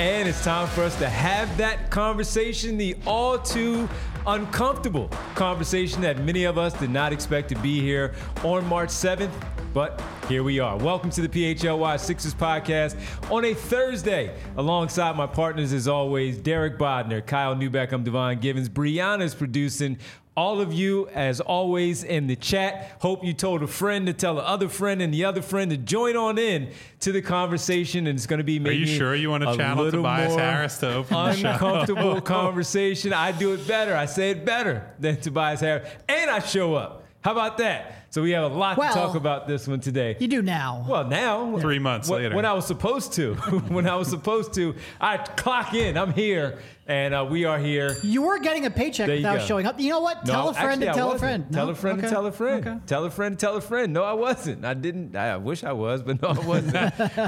And it's time for us to have that conversation, the all too uncomfortable conversation that many of us did not expect to be here on March 7th, but here we are. Welcome to the PHLY Sixers podcast on a Thursday. Alongside my partners, as always, Derek Bodner, Kyle Newbeck, I'm Devon Givens. Brianna's producing. All of you, as always, in the chat. Hope you told a friend to tell the other friend and the other friend to join on in to the conversation. And it's going to be maybe Are you sure you want to channel Tobias Harris to open the show? Uncomfortable conversation. I do it better. I say it better than Tobias Harris. And I show up. How about that? So we have a lot to talk about this one today. You do now. Well, now. 3 months later. When I was supposed to. I clock in. I'm here. And we are here. You were getting a paycheck without showing up. You know what? Tell a friend to tell a friend. Tell a friend to tell a friend. Okay. Tell a friend to tell a friend. No, I wasn't. I didn't. I wish I was, but no, I wasn't.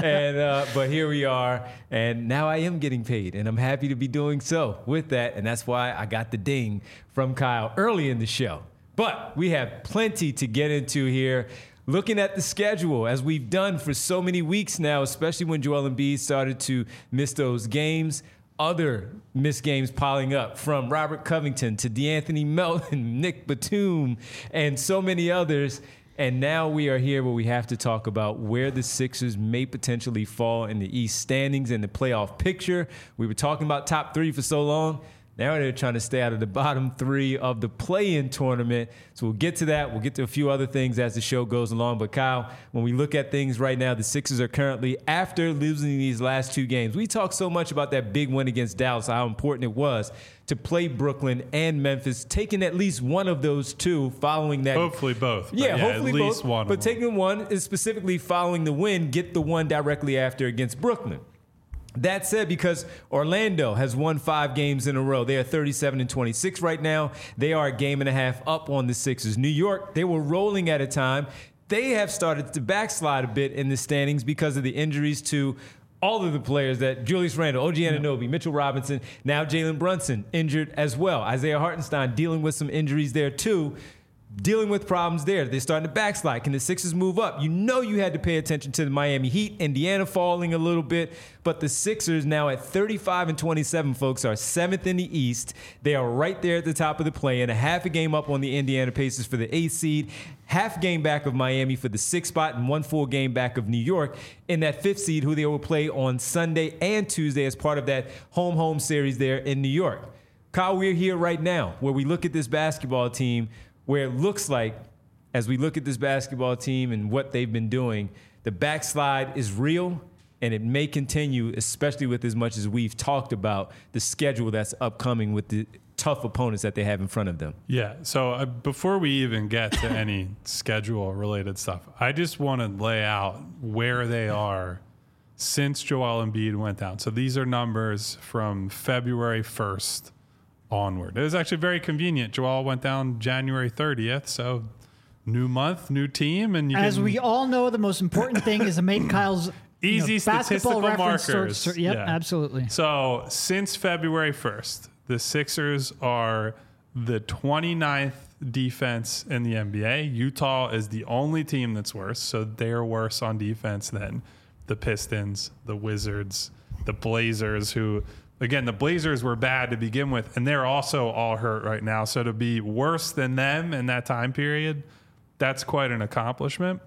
But here we are. And now I am getting paid. And I'm happy to be doing so with that. And that's why I got the ding from Kyle early in the show. But we have plenty to get into here. Looking at the schedule, as we've done for so many weeks now, especially when Joel Embiid started to miss those games, other missed games piling up, from Robert Covington to DeAnthony Melton, Nick Batum, and so many others. And now we are here where we have to talk about where the Sixers may potentially fall in the East standings and the playoff picture. We were talking about top three for so long. Now they're trying to stay out of the bottom three of the play-in tournament. So we'll get to that. We'll get to a few other things as the show goes along. But Kyle, when we look at things right now, the Sixers are currently, after losing these last two games, we talked so much about that big win against Dallas, how important it was to play Brooklyn and Memphis, taking at least one of those two following that. Hopefully both. Yeah, hopefully at least both. One. But taking one is specifically following the win, get the one directly after against Brooklyn. That said, because Orlando has won 5 games in a row, they are 37-26 right now. They are a game and a half up on the Sixers. New York, they were rolling at a time. They have started to backslide a bit in the standings because of the injuries to all of the players, that Julius Randle, OG Anunoby, Mitchell Robinson, now Jalen Brunson injured as well. Isaiah Hartenstein dealing with some injuries there too. Dealing with problems there. They're starting to backslide. Can the Sixers move up? You know you had to pay attention to the Miami Heat. Indiana falling a little bit. But the Sixers now at 35-27, folks, are 7th in the East. They are right there at the top of the play-in. A half a game up on the Indiana Pacers for the 8th seed. Half game back of Miami for the 6th spot. And 1 full game back of New York in that 5th seed, who they will play on Sunday and Tuesday as part of that home-home series there in New York. Kyle, we're here right now where we look at this basketball team, where it looks like, as we look at this basketball team and what they've been doing, the backslide is real, and it may continue, especially with as much as we've talked about the schedule that's upcoming with the tough opponents that they have in front of them. Yeah, so before we even get to any schedule-related stuff, I just want to lay out where they are since Joel Embiid went down. So these are numbers from February 1st. Onward. It was actually very convenient. Joel went down January 30th, so new month, new team, and as we all know, the most important thing is to make Kyle's easy statistical markers. Yep, absolutely. So since February 1st, the Sixers are the 29th defense in the NBA. Utah is the only team that's worse, so they're worse on defense than the Pistons, the Wizards, the Blazers, who. Again, the Blazers were bad to begin with, and they're also all hurt right now. So to be worse than them in that time period, that's quite an accomplishment.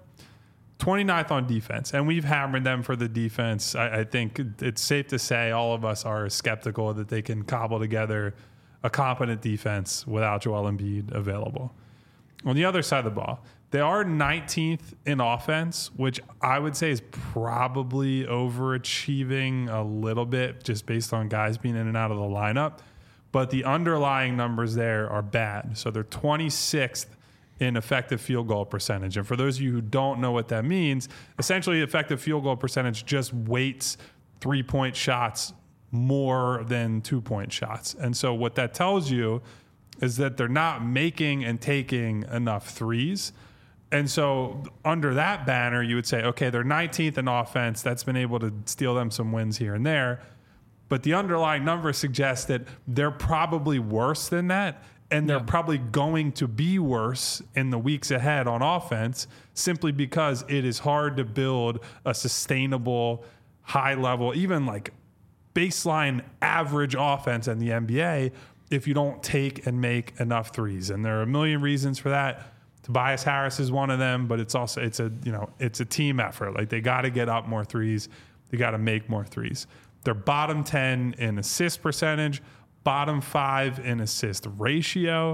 29th on defense, and we've hammered them for the defense. I think it's safe to say all of us are skeptical that they can cobble together a competent defense without Joel Embiid available. On the other side of the ball, they are 19th in offense, which I would say is probably overachieving a little bit just based on guys being in and out of the lineup. But the underlying numbers there are bad. So they're 26th in effective field goal percentage. And for those of you who don't know what that means, essentially effective field goal percentage just weights 3-point shots more than 2-point shots. And so what that tells you is that they're not making and taking enough threes. And so under that banner, you would say, okay, they're 19th in offense. That's been able to steal them some wins here and there. But the underlying numbers suggest that they're probably worse than that. And they're probably going to be worse in the weeks ahead on offense simply because it is hard to build a sustainable, high level, even like baseline average offense in the NBA if you don't take and make enough threes. And there are a million reasons for that. Tobias Harris is one of them, but it's a team effort. Like, they got to get up more threes. They got to make more threes. They're bottom 10 in assist percentage, bottom 5 in assist ratio,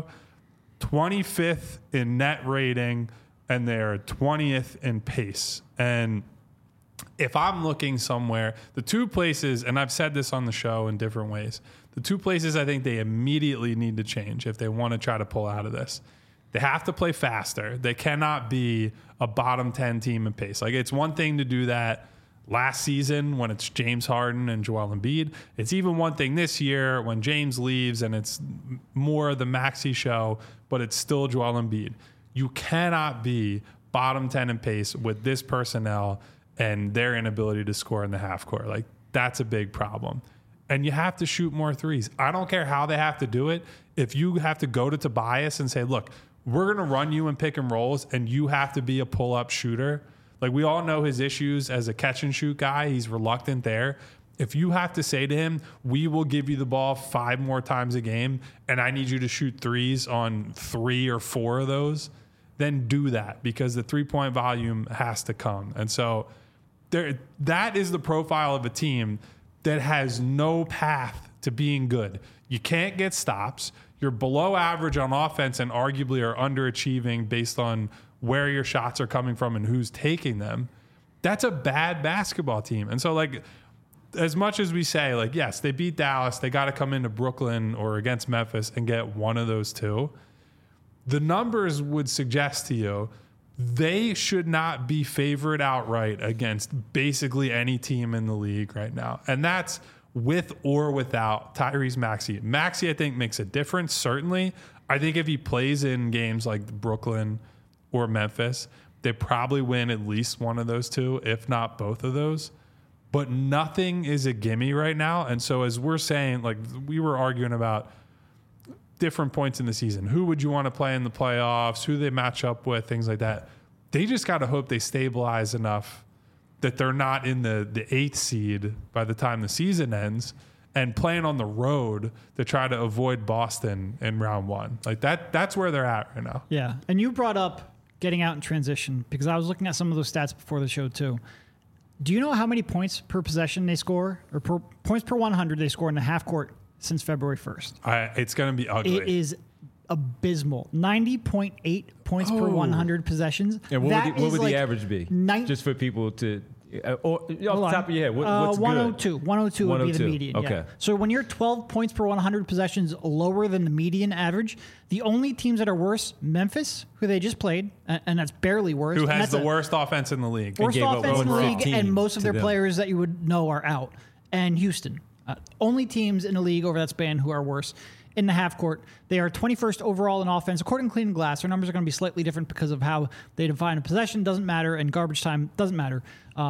25th in net rating, and they're 20th in pace. And if I'm looking somewhere, the two places, and I've said this on the show in different ways, the two places I think they immediately need to change if they want to try to pull out of this. They have to play faster. They cannot be a bottom 10 team in pace. Like, it's one thing to do that last season when it's James Harden and Joel Embiid. It's even one thing this year when James leaves and it's more the Maxey show, but it's still Joel Embiid. You cannot be bottom 10 in pace with this personnel and their inability to score in the half court. Like, that's a big problem. And you have to shoot more threes. I don't care how they have to do it. If you have to go to Tobias and say, look, we're going to run you in pick and rolls and you have to be a pull-up shooter. Like, we all know his issues as a catch-and-shoot guy. He's reluctant there. If you have to say to him, we will give you the ball 5 more times a game and I need you to shoot threes on 3 or 4 of those, then do that, because the three-point volume has to come. And so that is the profile of a team that has no path to being good. You can't get stops. You're below average on offense and arguably are underachieving based on where your shots are coming from and who's taking them. That's a bad basketball team. And so, like, as much as we say, like, yes, they beat Dallas, they got to come into Brooklyn or against Memphis and get one of those two. The numbers would suggest to you they should not be favored outright against basically any team in the league right now. And that's with or without Tyrese Maxey. Maxey, I think, makes a difference, certainly. I think if he plays in games like Brooklyn or Memphis, they probably win at least one of those two, if not both of those. But nothing is a gimme right now. And so, as we're saying, like, we were arguing about different points in the season. Who would you want to play in the playoffs? Who they match up with? Things like that. They just got to hope they stabilize enough that they're not in the 8th seed by the time the season ends and playing on the road to try to avoid Boston in round 1. Like, that's where they're at right now. Yeah. And you brought up getting out in transition, because I was looking at some of those stats before the show too. Do you know how many points per possession they score, or points per 100 they score in the half court since February 1st? It's going to be ugly. It is abysmal. 90.8 points per 100 possessions. And what would the average be? Just for people to, or off the top of your head, what's 102. good? 102 would be the median. Okay. Yeah. So when you're 12 points per 100 possessions lower than the median average, the only teams that are worse, Memphis, who they just played, and that's barely worse. Who has the worst offense in the league. Worst offense in the league, and most of their players that you would know are out. And Houston. Only teams in the league over that span who are worse in the half court. They are 21st overall in offense. According to Clean Glass, their numbers are going to be slightly different because of how they define a possession. Doesn't matter, and garbage time doesn't matter.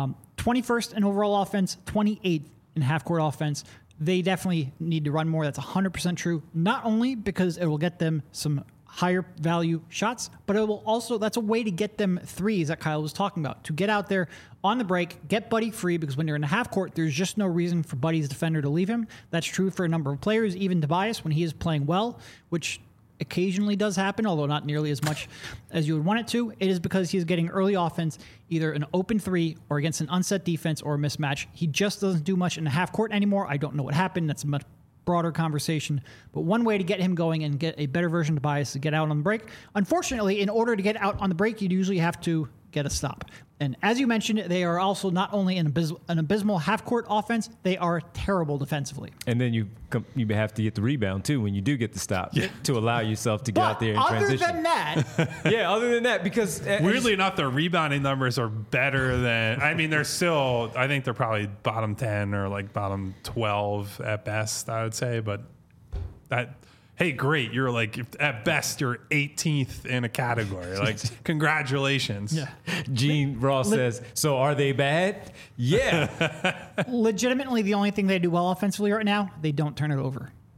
21st in overall offense, 28th in half court offense. They definitely need to run more. That's 100% true. Not only because it will get them some higher value shots, but it will also, that's a way to get them threes that Kyle was talking about, to get out there on the break, get Buddy free, because when you're in the half court, there's just no reason for Buddy's defender to leave him. That's true for a number of players, even Tobias when he is playing well, which occasionally does happen, although not nearly as much as you would want it to. It is because he's getting early offense, either an open three or against an unset defense or a mismatch. He just doesn't do much in the half court anymore. I don't know what happened. That's a much broader conversation, but one way to get him going and get a better version of Tobias is to get out on the break. Unfortunately, in order to get out on the break, you'd usually have to get a stop. And as you mentioned, they are also not only an abysmal half-court offense, they are terrible defensively. And then you have to get the rebound, too, when you do get the stop, to allow yourself to get out there and transition. Other than that... other than that, because... weirdly enough, their rebounding numbers are better than... I mean, they're still... I think they're probably bottom 10 or like bottom 12 at best, I would say, but that... Hey, great. You're like, at best, you're 18th in a category. Like, congratulations. Yeah. Gene Ross says, so are they bad? Yeah. Legitimately, the only thing they do well offensively right now, they don't turn it over.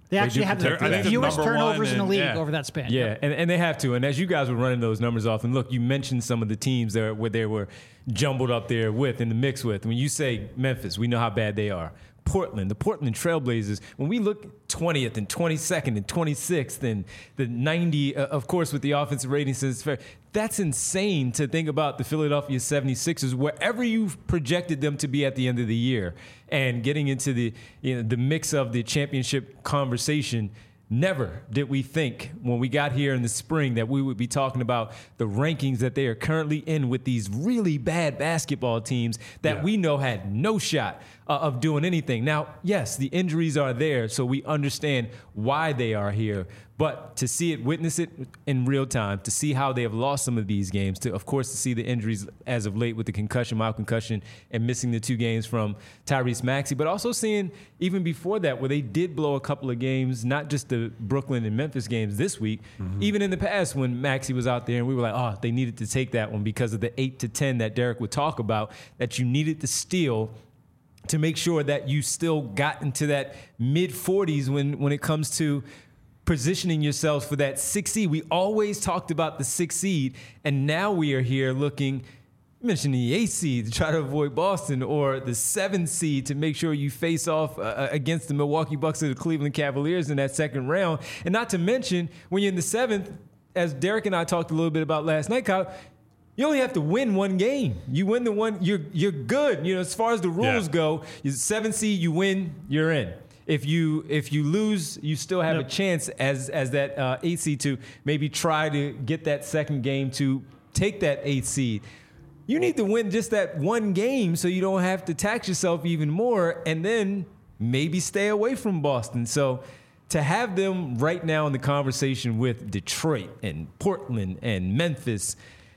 They actually have the fewest turnovers in the league over that span. Yeah, and they have to. And as you guys were running those numbers off, and look, you mentioned some of the teams there where they were jumbled up there with, in the mix with. When you say Memphis, we know how bad they are. Portland, the Portland Trailblazers, when we look 20th and 22nd and 26th and the 90, of course, with the offensive rating, that's insane to think about the Philadelphia 76ers, wherever you've projected them to be at the end of the year, and getting into the mix of the championship conversation. Never did we think when we got here in the spring that we would be talking about the rankings that they are currently in with these really bad basketball teams that we know had no shot of doing anything. Now, yes, the injuries are there, so we understand why they are here. But to see it, witness it in real time, to see how they have lost some of these games, of course, to see the injuries as of late with the concussion, mild concussion, and missing the 2 games from Tyrese Maxey, but also seeing even before that where they did blow a couple of games, not just the Brooklyn and Memphis games this week, even in the past when Maxey was out there and we were like, oh, they needed to take that one because of the 8 to 10 that Derek would talk about, that you needed to steal to make sure that you still got into that mid-40s when it comes to positioning yourselves for that 6 seed. We always talked about the 6 seed, and now we are here looking, mentioning the 8 seed to try to avoid Boston, or the 7 seed to make sure you face off against the Milwaukee Bucks or the Cleveland Cavaliers in that second round. And not to mention, when you're in the 7th, as Derek and I talked a little bit about last night, Kyle, you only have to win one game. You win the one, you're good. As far as the rules go, you're 7 seed, you win, you're in. If you lose, you still have a chance as that 8 seed to maybe try to get that second game to take that 8 seed. You need to win just that one game so you don't have to tax yourself even more, and then maybe stay away from Boston. So to have them right now in the conversation with Detroit and Portland and Memphis,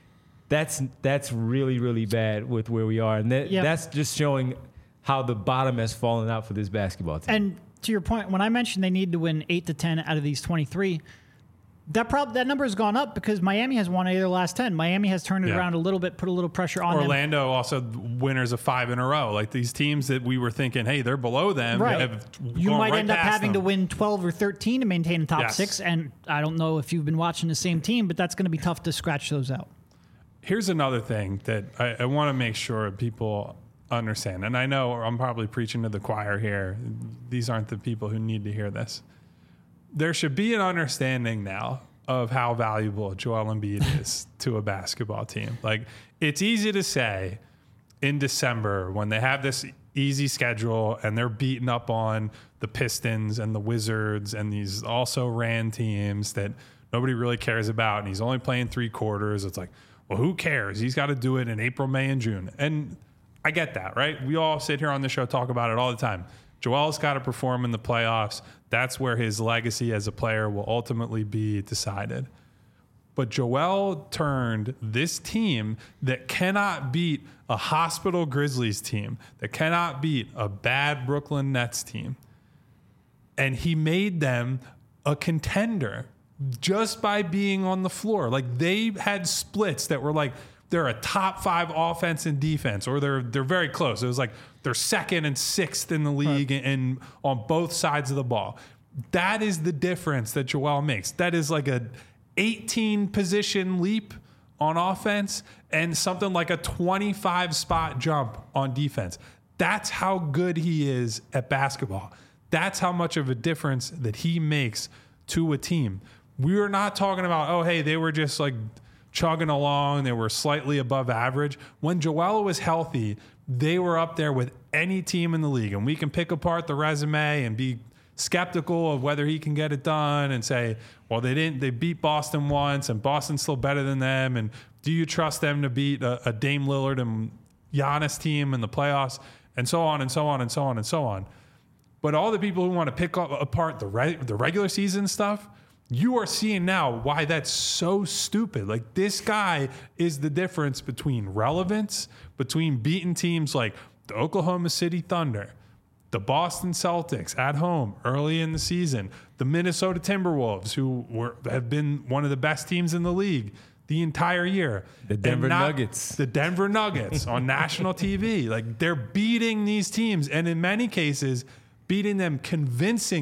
that's really, really bad with where we are. And that's just showing how the bottom has fallen out for this basketball team. And to your point, when I mentioned they need to win 8 to 10 out of these 23, that number has gone up because Miami has won 8 of their last 10. Miami has turned it around a little bit, put a little pressure on Orlando them. also winners of 5 in a row. Like these teams that we were thinking, hey, they're below them. Right. You might end up having to win 12 or 13 to maintain a top 6. And I don't know if you've been watching the same team, but that's going to be tough to scratch those out. Here's another thing that I want to make sure people understand. And I know I'm probably preaching to the choir here. These aren't the people who need to hear this. There should be an understanding now of how valuable Joel Embiid is to a basketball team. Like, it's easy to say in December when they have this easy schedule and they're beating up on the Pistons and the Wizards and these also ran teams that nobody really cares about, and he's only playing 3 quarters. It's like, well, who cares? He's got to do it in April, May, and June. And I get that, right? We all sit here on the show, talk about it all the time. Joel's got to perform in the playoffs. That's where his legacy as a player will ultimately be decided. But Joel turned this team that cannot beat a hospital Grizzlies team, that cannot beat a bad Brooklyn Nets team, and he made them a contender just by being on the floor. Like, they had splits that were like, they're a top 5 offense and defense, or they're very close. It was like they're 2nd and 6th in the league and on both sides of the ball. That is the difference that Joel makes. That is like a 18 position leap on offense and something like a 25 spot jump on defense. That's how good he is at basketball. That's how much of a difference that he makes to a team. We were not talking about, oh, hey, they were just like chugging along. They were slightly above average. When Joel was healthy, they were up there with any team in the league. And we can pick apart the resume and be skeptical of whether he can get it done and say, well, they beat Boston once and Boston's still better than them. And do you trust them to beat a Dame Lillard and Giannis team in the playoffs? And so on and so on and so on and so on. But all the people who want to pick apart the regular season stuff, you are seeing now why that's so stupid. Like, this guy is the difference between relevance, between beating teams like the Oklahoma City Thunder, the Boston Celtics at home early in the season, the Minnesota Timberwolves, who have been one of the best teams in the league the entire year. The Denver Nuggets. The Denver Nuggets on national TV. Like, they're beating these teams, and in many cases, beating them convincingly.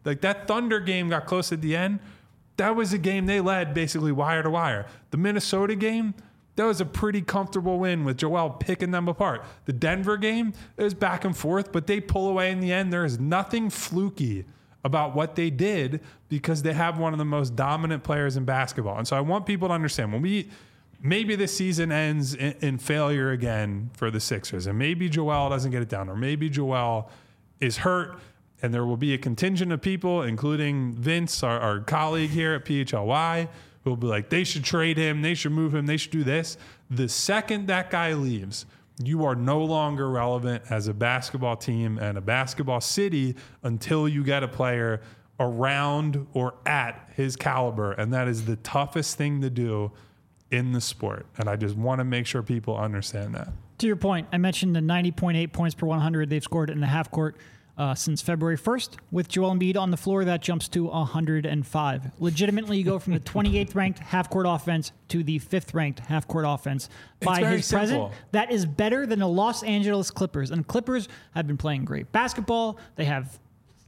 Like that Thunder game got close at the end. That was a game they led basically wire to wire. The Minnesota game, that was a pretty comfortable win with Joel picking them apart. The Denver game, it was back and forth, but they pull away in the end. There is nothing fluky about what they did because they have one of the most dominant players in basketball. And so I want people to understand maybe this season ends in failure again for the Sixers, and maybe Joel doesn't get it down, or maybe Joel is hurt, and there will be a contingent of people, including Vince, our colleague here at PHLY, who will be like, they should trade him, they should move him, they should do this. The second that guy leaves, you are no longer relevant as a basketball team and a basketball city until you get a player around or at his caliber, and that is the toughest thing to do in the sport. And I just want to make sure people understand that. To your point, I mentioned the 90.8 points per 100 they've scored in the half court since February 1st. With Joel Embiid on the floor, that jumps to 105. Legitimately, you go from the 28th ranked half court offense to the 5th ranked half court offense by his present. That is better than the Los Angeles Clippers. And Clippers have been playing great basketball. They have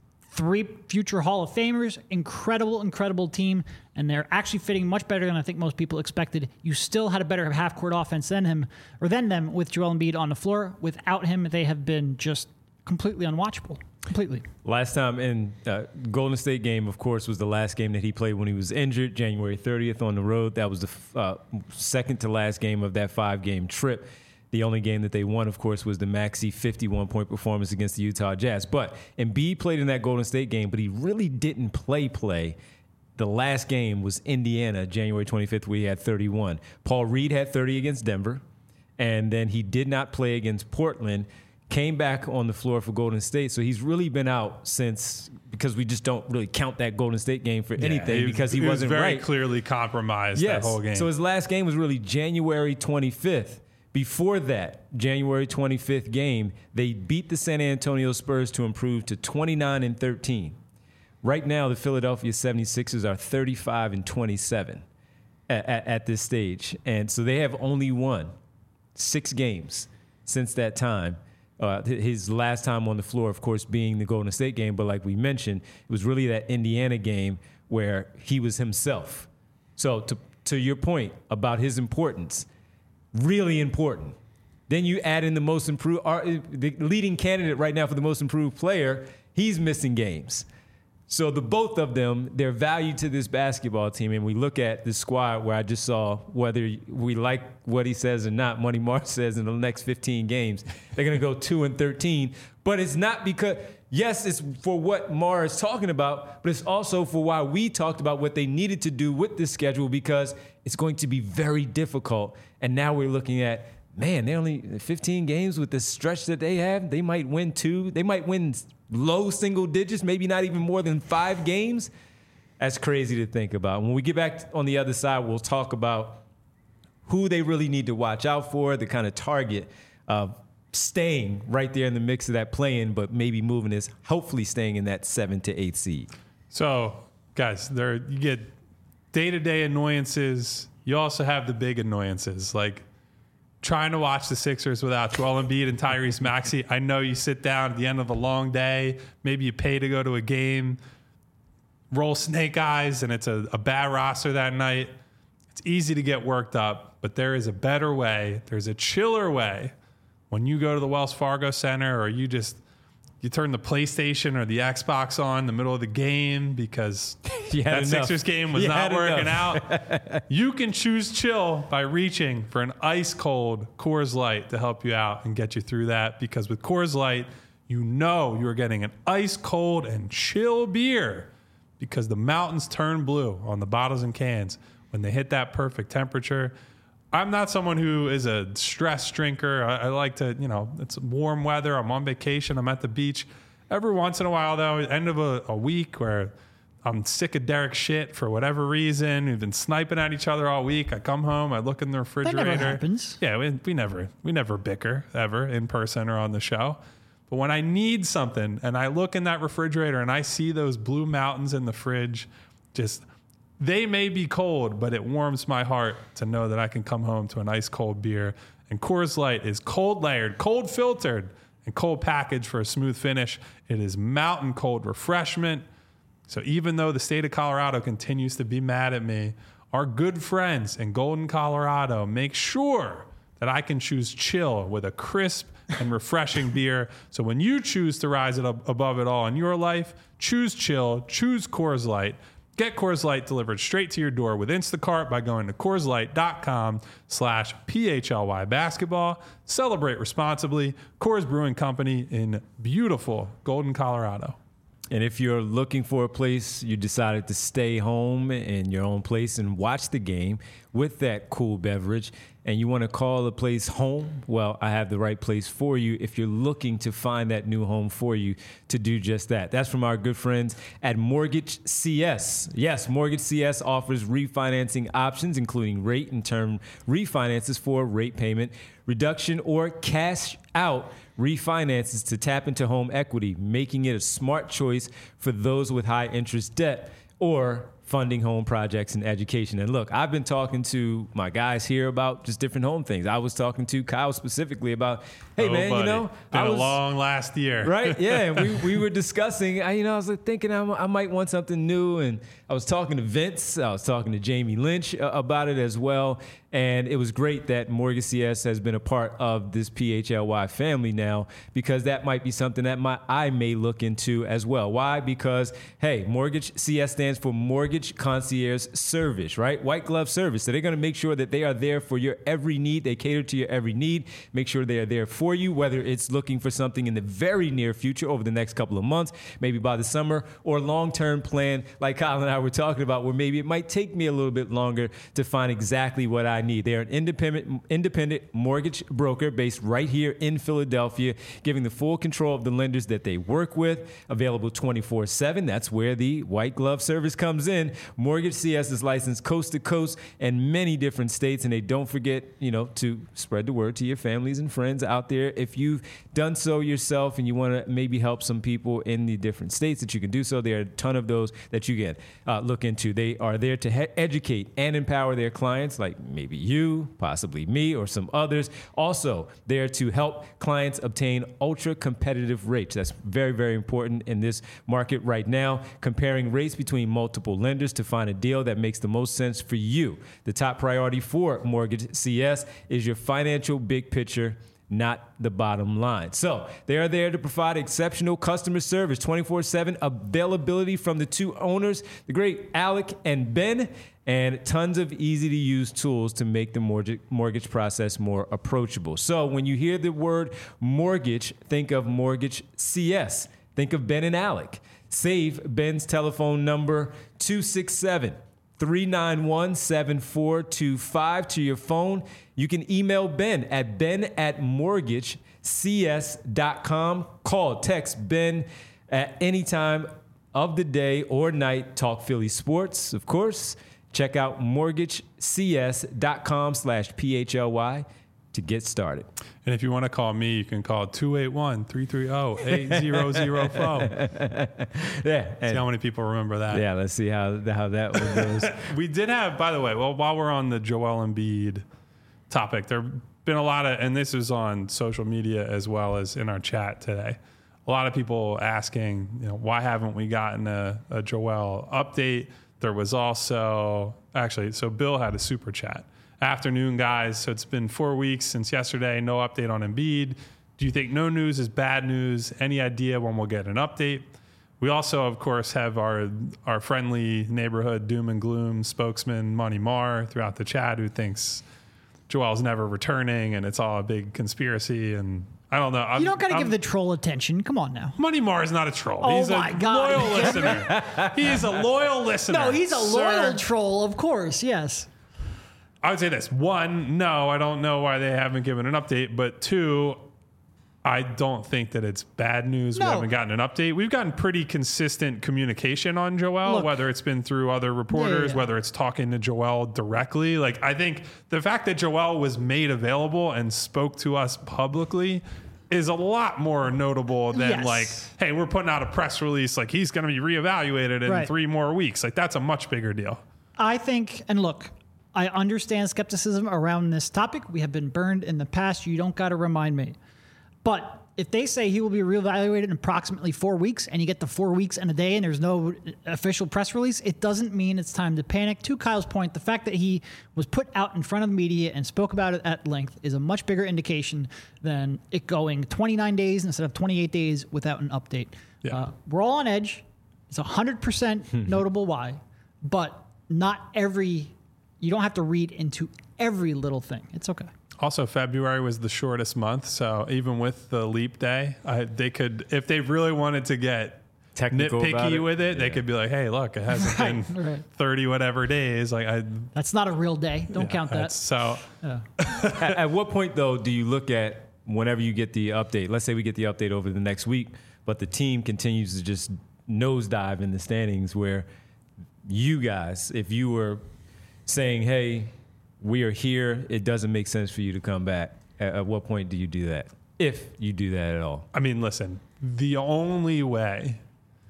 3 future Hall of Famers, incredible team, and they're actually fitting much better than I think most people expected. You still had a better half-court offense than them with Joel Embiid on the floor. Without him, they have been just completely unwatchable. Completely. Last time in Golden State game, of course, was the last game that he played when he was injured, January 30th on the road. That was the second to last game of that 5-game trip. The only game that they won, of course, was the Maxey 51-point performance against the Utah Jazz. But Embiid played in that Golden State game, but he really didn't play. The last game was Indiana, January 25th, where he had 31. Paul Reed had 30 against Denver, and then he did not play against Portland, came back on the floor for Golden State. So he's really been out since, because we just don't really count that Golden State game for anything because he wasn't very right. Clearly compromised that whole game. So his last game was really January 25th. Before that, January 25th game, they beat the San Antonio Spurs to improve to 29-13. Right now, the Philadelphia 76ers are 35-27 at this stage. And so they have only won 6 games since that time. His last time on the floor, of course, being the Golden State game. But like we mentioned, it was really that Indiana game where he was himself. So to your point about his importance, really important. Then you add in the most improved, the leading candidate right now for the most improved player, he's missing games. So the both of them, their value to this basketball team, and we look at the squad where I just saw whether we like what he says or not, Money Mark says in the next 15 games, they're going to go 2-13. But it's not because, yes, it's for what Mar is talking about, but it's also for why we talked about what they needed to do with this schedule, because it's going to be very difficult. And now we're looking at, man, they're only 15 games with the stretch that they have. They might win 2. They might win low single digits, maybe not even more than 5 games. That's crazy to think about. When we get back on the other side, we'll talk about who they really need to watch out for, the kind of target of staying right there in the mix of that play-in, but maybe moving is hopefully staying in that 7 to 8 seed. So, guys, you get day-to-day annoyances. You also have the big annoyances, like trying to watch the Sixers without Joel Embiid and Tyrese Maxey. I know you sit down at the end of a long day, maybe you pay to go to a game, roll snake eyes, and it's a bad roster that night. It's easy to get worked up, but there is a better way. There's a chiller way when you go to the Wells Fargo Center, or you turn the PlayStation or the Xbox on in the middle of the game because that Sixers game was not working out. You can choose chill by reaching for an ice-cold Coors Light to help you out and get you through that, because with Coors Light, you know you're getting an ice-cold and chill beer, because the mountains turn blue on the bottles and cans when they hit that perfect temperature. I'm not someone who is a stress drinker. I like to, it's warm weather. I'm on vacation. I'm at the beach. Every once in a while, though, end of a week where I'm sick of Derek's shit for whatever reason. We've been sniping at each other all week. I come home. I look in the refrigerator. That never happens. Yeah, we never bicker ever in person or on the show. But when I need something and I look in that refrigerator and I see those blue mountains in the fridge, they may be cold, but it warms my heart to know that I can come home to an ice cold beer. And Coors Light is cold layered, cold filtered, and cold packaged for a smooth finish. It is mountain cold refreshment. So even though the state of Colorado continues to be mad at me, our good friends in Golden, Colorado make sure that I can choose chill with a crisp and refreshing beer. So when you choose to rise it up above it all in your life, choose chill, choose Coors Light. Get Coors Light delivered straight to your door with Instacart by going to CoorsLight.com/PHLY basketball. Celebrate responsibly. Coors Brewing Company in beautiful Golden, Colorado. And if you're looking for a place, you decided to stay home in your own place and watch the game with that cool beverage, and you want to call a place home, well, I have the right place for you if you're looking to find that new home for you to do just that. That's from our good friends at Mortgage CS. Yes, Mortgage CS offers refinancing options, including rate and term refinances for rate payment reduction or cash out refinances to tap into home equity, making it a smart choice for those with high interest debt or funding home projects and education. And look, I've been talking to my guys here about just different home things. I was talking to Kyle specifically about, hey, man, buddy. you know, been a long last year. Right? Yeah. And we were discussing, I was like thinking I might want something new. And I was talking to Vince. I was talking to Jamie Lynch about it as well. And it was great that Mortgage CS has been a part of this PHLY family now, because that might be something that I may look into as well. Why? Because, hey, Mortgage CS stands for Mortgage Concierge Service, right? White glove service. So they're going to make sure that they are there for your every need. They cater to your every need. Make sure they are there for you, whether it's looking for something in the very near future over the next couple of months, maybe by the summer, or long-term plan like Kyle and I were talking about, where maybe it might take me a little bit longer to find exactly what I need. They are an independent mortgage broker based right here in Philadelphia, giving the full control of the lenders that they work with, available 24/7. That's where the white glove service comes in. Mortgage CS is licensed coast to coast in many different states, and they don't forget, to spread the word to your families and friends out there. If you've done so yourself and you want to maybe help some people in the different states, that you can do so. There are a ton of those that you can look into. They are there to educate and empower their clients, like maybe you, possibly me, or some others. Also, there to help clients obtain ultra competitive rates. That's very, very important in this market right now. Comparing rates between multiple lenders to find a deal that makes the most sense for you. The top priority for Mortgage CS is your financial big picture, not the bottom line. So they are there to provide exceptional customer service, 24/7 availability from the two owners, the great Alec and Ben, and tons of easy-to-use tools to make the mortgage process more approachable. So when you hear the word mortgage, think of Mortgage CS. Think of Ben and Alec. Save Ben's telephone number, 267-391-7425 to your phone. You can email Ben at ben@mortgagecs.com. Call, text Ben at any time of the day or night. Talk Philly sports, of course. Check out mortgagecs.com/PHLY to get started. And if you want to call me, you can call 281-330-8004. Yeah. See how many people remember that. Yeah, let's see how that one goes. We did have, by the way, while we're on the Joel Embiid topic, there have been a lot of, and this is on social media as well as in our chat today, a lot of people asking, why haven't we gotten a Joel update? There was also, so Bill had a super chat. Afternoon, guys. So it's been 4 weeks since yesterday. No update on Embiid. Do you think no news is bad news? Any idea when we'll get an update? We also, of course, have our friendly neighborhood doom and gloom spokesman, Money Marr, throughout the chat, who thinks Joel's never returning and it's all a big conspiracy. And I don't know. You don't got to give the troll attention. Come on now. Money Marr is not a troll. Oh, he's my a God. loyal listener. He is a loyal listener. No, he's a loyal sir. troll, of course. Yes. I would say this. One, no, I don't know why they haven't given an update. But two, I don't think that it's bad news. No. We haven't gotten an update. We've gotten pretty consistent communication on Joel, Look, whether it's been through other reporters, whether it's talking to Joel directly. Like, I think the fact that Joel was made available and spoke to us publicly is a lot more notable than like, hey, we're putting out a press release. Like, he's going to be reevaluated in 3 more weeks. Like, that's a much bigger deal. I think, and look, I understand skepticism around this topic. We have been burned in the past. You don't got to remind me. But if they say he will be reevaluated in approximately 4 weeks and you get the 4 weeks and a day and there's no official press release, it doesn't mean it's time to panic. To Kyle's point, the fact that he was put out in front of the media and spoke about it at length is a much bigger indication than it going 29 days instead of 28 days without an update. Yeah. We're all on edge. It's 100% notable why, but you don't have to read into every little thing. It's okay. Also, February was the shortest month, so even with the leap day, they could, if they really wanted to get Technical nitpicky with it, they could be like, "Hey, look, it hasn't been 30 whatever days." That's not a real day. Don't count that. So, At what point though do you look at whenever you get the update? Let's say we get the update over the next week, but the team continues to just nosedive in the standings. Where you guys, if you were saying, "Hey, we are here," it doesn't make sense for you to come back. At what point do you do that? If you do that at all. I mean, listen, the only way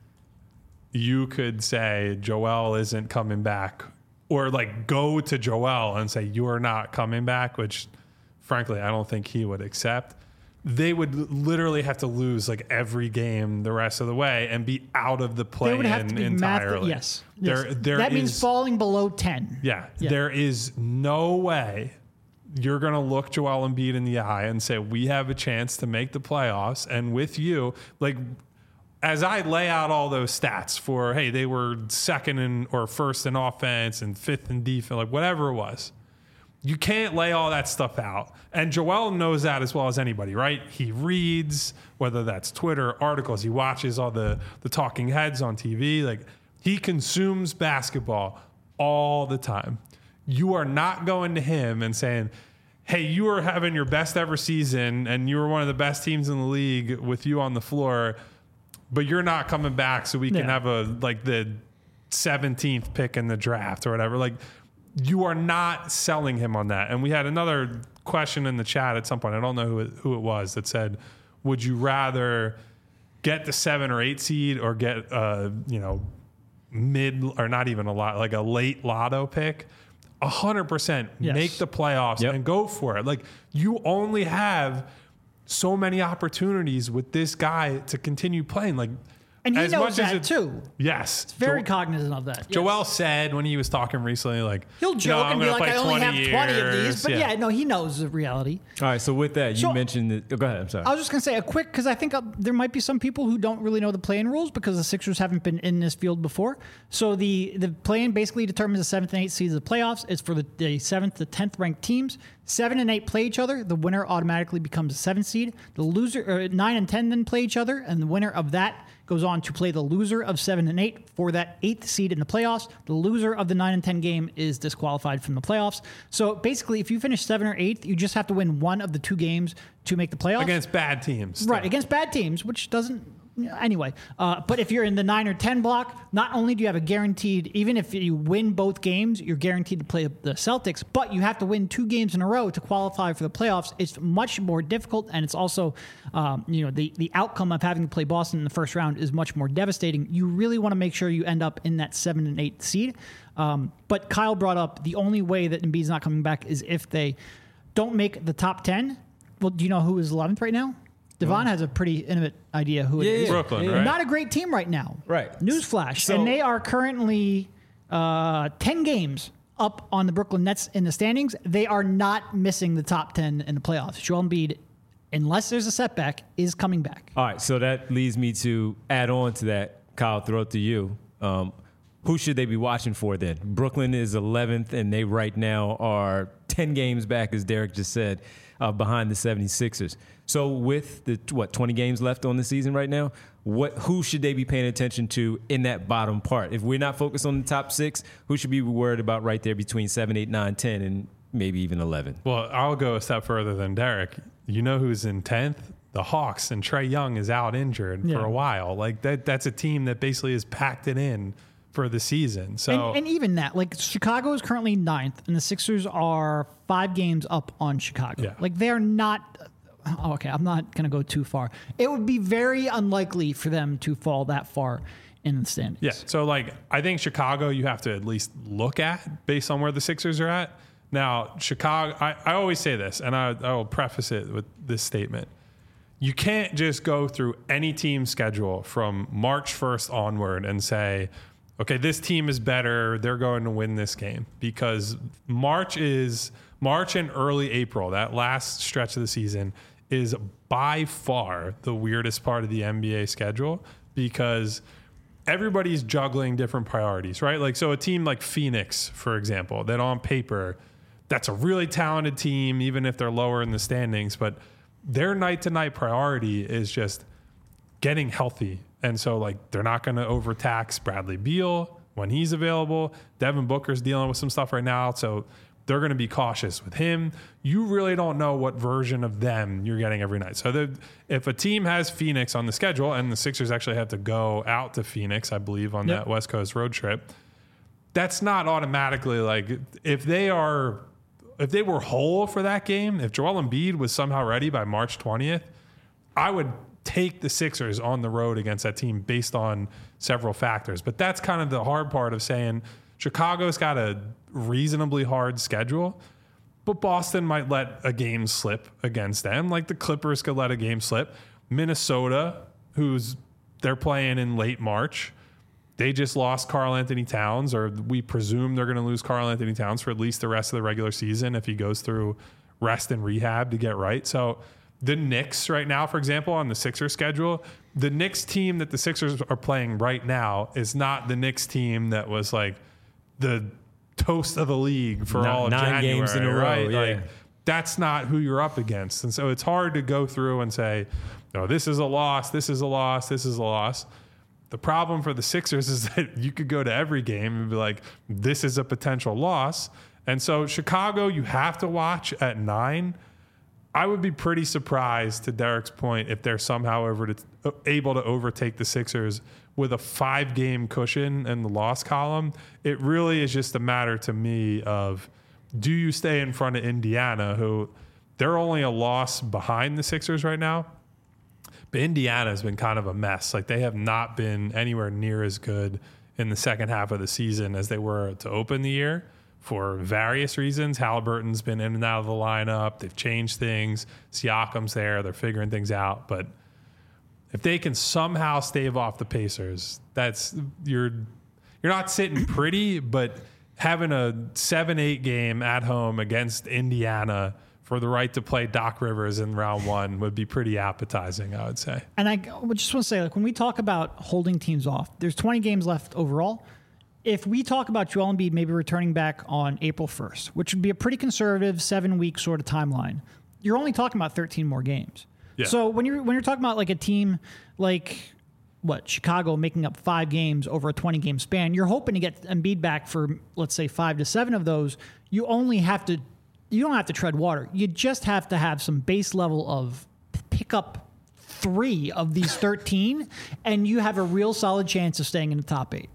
you could say Joel isn't coming back, or like go to Joel and say you're not coming back, which frankly, I don't think he would accept. They would literally have to lose like every game the rest of the way and be out of the play-in entirely. Yes. That means falling below 10. Yeah. There is no way you're going to look Joel Embiid in the eye and say, we have a chance to make the playoffs. And with you, like, as I lay out all those stats for, hey, they were second in or first in offense and fifth in defense, like whatever it was, you can't lay all that stuff out. And Joel knows that as well as anybody, right? He reads, whether that's Twitter, articles, he watches all the talking heads on TV. Like, he consumes basketball all the time. You are not going to him and saying, hey, you were having your best ever season and you were one of the best teams in the league with you on the floor, but you're not coming back so we can have the 17th pick in the draft or whatever. Like, you are not selling him on that. And we had another question in the chat at some point. I don't know who it was that said, would you rather get the 7 or 8 seed or get mid or not even a lot, like a late lotto pick? 100% make the playoffs and go for it. Like, you only have so many opportunities with this guy to continue playing. Like, and he knows that too. Yes. It's very cognizant of that. Yes. Joel said when he was talking recently, like, he'll joke and be like, I only have 20 of these. But he knows the reality. All right, so with that, you mentioned that. Go ahead, I'm sorry. I was just going to say a quick, because I think there might be some people who don't really know the play-in rules because the Sixers haven't been in this field before. So the play-in basically determines the 7th and 8th seeds of the playoffs. It's for the 7th to 10th ranked teams. 7 and 8 play each other. The winner automatically becomes a 7th seed. The loser, 9 and 10 then play each other, and the winner of that goes on to play the loser of 7 and 8 for that 8th seed in the playoffs. The loser of the 9 and 10 game is disqualified from the playoffs. So basically, if you finish 7th or 8th, you just have to win one of the 2 games to make the playoffs. Against bad teams. Right, against bad teams, which doesn't... Anyway, but if you're in the 9 or 10 block, not only do you have a guaranteed, even if you win both games, you're guaranteed to play the Celtics, but you have to win 2 games in a row to qualify for the playoffs. It's much more difficult, and it's also, the outcome of having to play Boston in the first round is much more devastating. You really want to make sure you end up in that 7 and 8 seed. But Kyle brought up the only way that Embiid's not coming back is if they don't make the top 10. Well, do you know who is 11th right now? Devon has a pretty intimate idea who it is. Brooklyn, right? Not a great team right now. Right. Newsflash. And they are currently 10 games up on the Brooklyn Nets in the standings. They are not missing the top 10 in the playoffs. Joel Embiid, unless there's a setback, is coming back. All right, so that leads me to add on to that, Kyle, throw it to you. Who should they be watching for then? Brooklyn is 11th, and they right now are 10 games back, as Derek just said, behind the 76ers. So with the 20 games left on the season right now, who should they be paying attention to in that bottom part? If we're not focused on the top 6, who should we be worried about right there between 7, 8, 9, 10, and maybe even 11? Well, I'll go a step further than Derek. You know who's in 10th? The Hawks, and Trae Young is out injured for a while. Like, that's a team that basically has packed it in for the season. So and even that, like, Chicago is currently 9th, and the Sixers are 5 games up on Chicago. Yeah. Like, they're not... Oh, okay, I'm not going to go too far. It would be very unlikely for them to fall that far in the standings. Yeah, so, like, I think Chicago you have to at least look at based on where the Sixers are at. Now, Chicago, I always say this, and I will preface it with this statement. you can't just go through any team schedule from March 1st onward and say, okay, this team is better, they're going to win this game. Because March and early April, that last stretch of the season, is by far the weirdest part of the NBA schedule because everybody's juggling different priorities, right? Like, so a team like Phoenix, for example, that on paper, that's a really talented team, even if they're lower in the standings, but their night-to-night priority is just getting healthy. And so, like, they're not going to overtax Bradley Beal when he's available. Devin Booker's dealing with some stuff right now, so they're going to be cautious with him. You really don't know what version of them you're getting every night. So if a team has Phoenix on the schedule, and the Sixers actually have to go out to Phoenix, I believe, on that West Coast road trip, that's not automatically like if they were whole for that game, if Joel Embiid was somehow ready by March 20th, I would take the Sixers on the road against that team based on several factors. But that's kind of the hard part of saying Chicago's got a reasonably hard schedule, but Boston might let a game slip against them, like the Clippers could let a game slip. Minnesota, they're playing in late March, they just lost Karl Anthony Towns, or we presume they're going to lose Karl Anthony Towns for at least the rest of the regular season if he goes through rest and rehab to get right. So the Knicks right now, for example, on the Sixers schedule, the Knicks team that the Sixers are playing right now is not the Knicks team that was like the toast of the league for all of 9 January, games in a row, right? yeah. Like, that's not who you're up against. And so it's hard to go through and say, no, this is a loss, this is a loss, this is a loss. The problem for the Sixers is that you could go to every game and be like, this is a potential loss. And so Chicago, you have to watch at 9. I would be pretty surprised, to Derek's point, if they're somehow able to overtake the Sixers with a 5-game cushion in the loss column. It really is just a matter to me of, do you stay in front of Indiana, who they're only a loss behind the Sixers right now? But Indiana has been kind of a mess. Like, they have not been anywhere near as good in the second half of the season as they were to open the year for various reasons. Halliburton's been in and out of the lineup. They've changed things. Siakam's there. They're figuring things out. But if they can somehow stave off the Pacers, you're not sitting pretty, but having a 7-8 game at home against Indiana for the right to play Doc Rivers in round 1 would be pretty appetizing, I would say. And I just want to say, like, when we talk about holding teams off, there's 20 games left overall. If we talk about Joel Embiid maybe returning back on April 1st, which would be a pretty conservative 7-week sort of timeline, you're only talking about 13 more games. Yeah. So when you're talking about like a team like Chicago making up 5 games over a 20-game span, you're hoping to get Embiid back for, let's say, 5 to 7 of those. You don't have to tread water. You just have to have some base level of pick up 3 of these 13, and you have a real solid chance of staying in the top 8.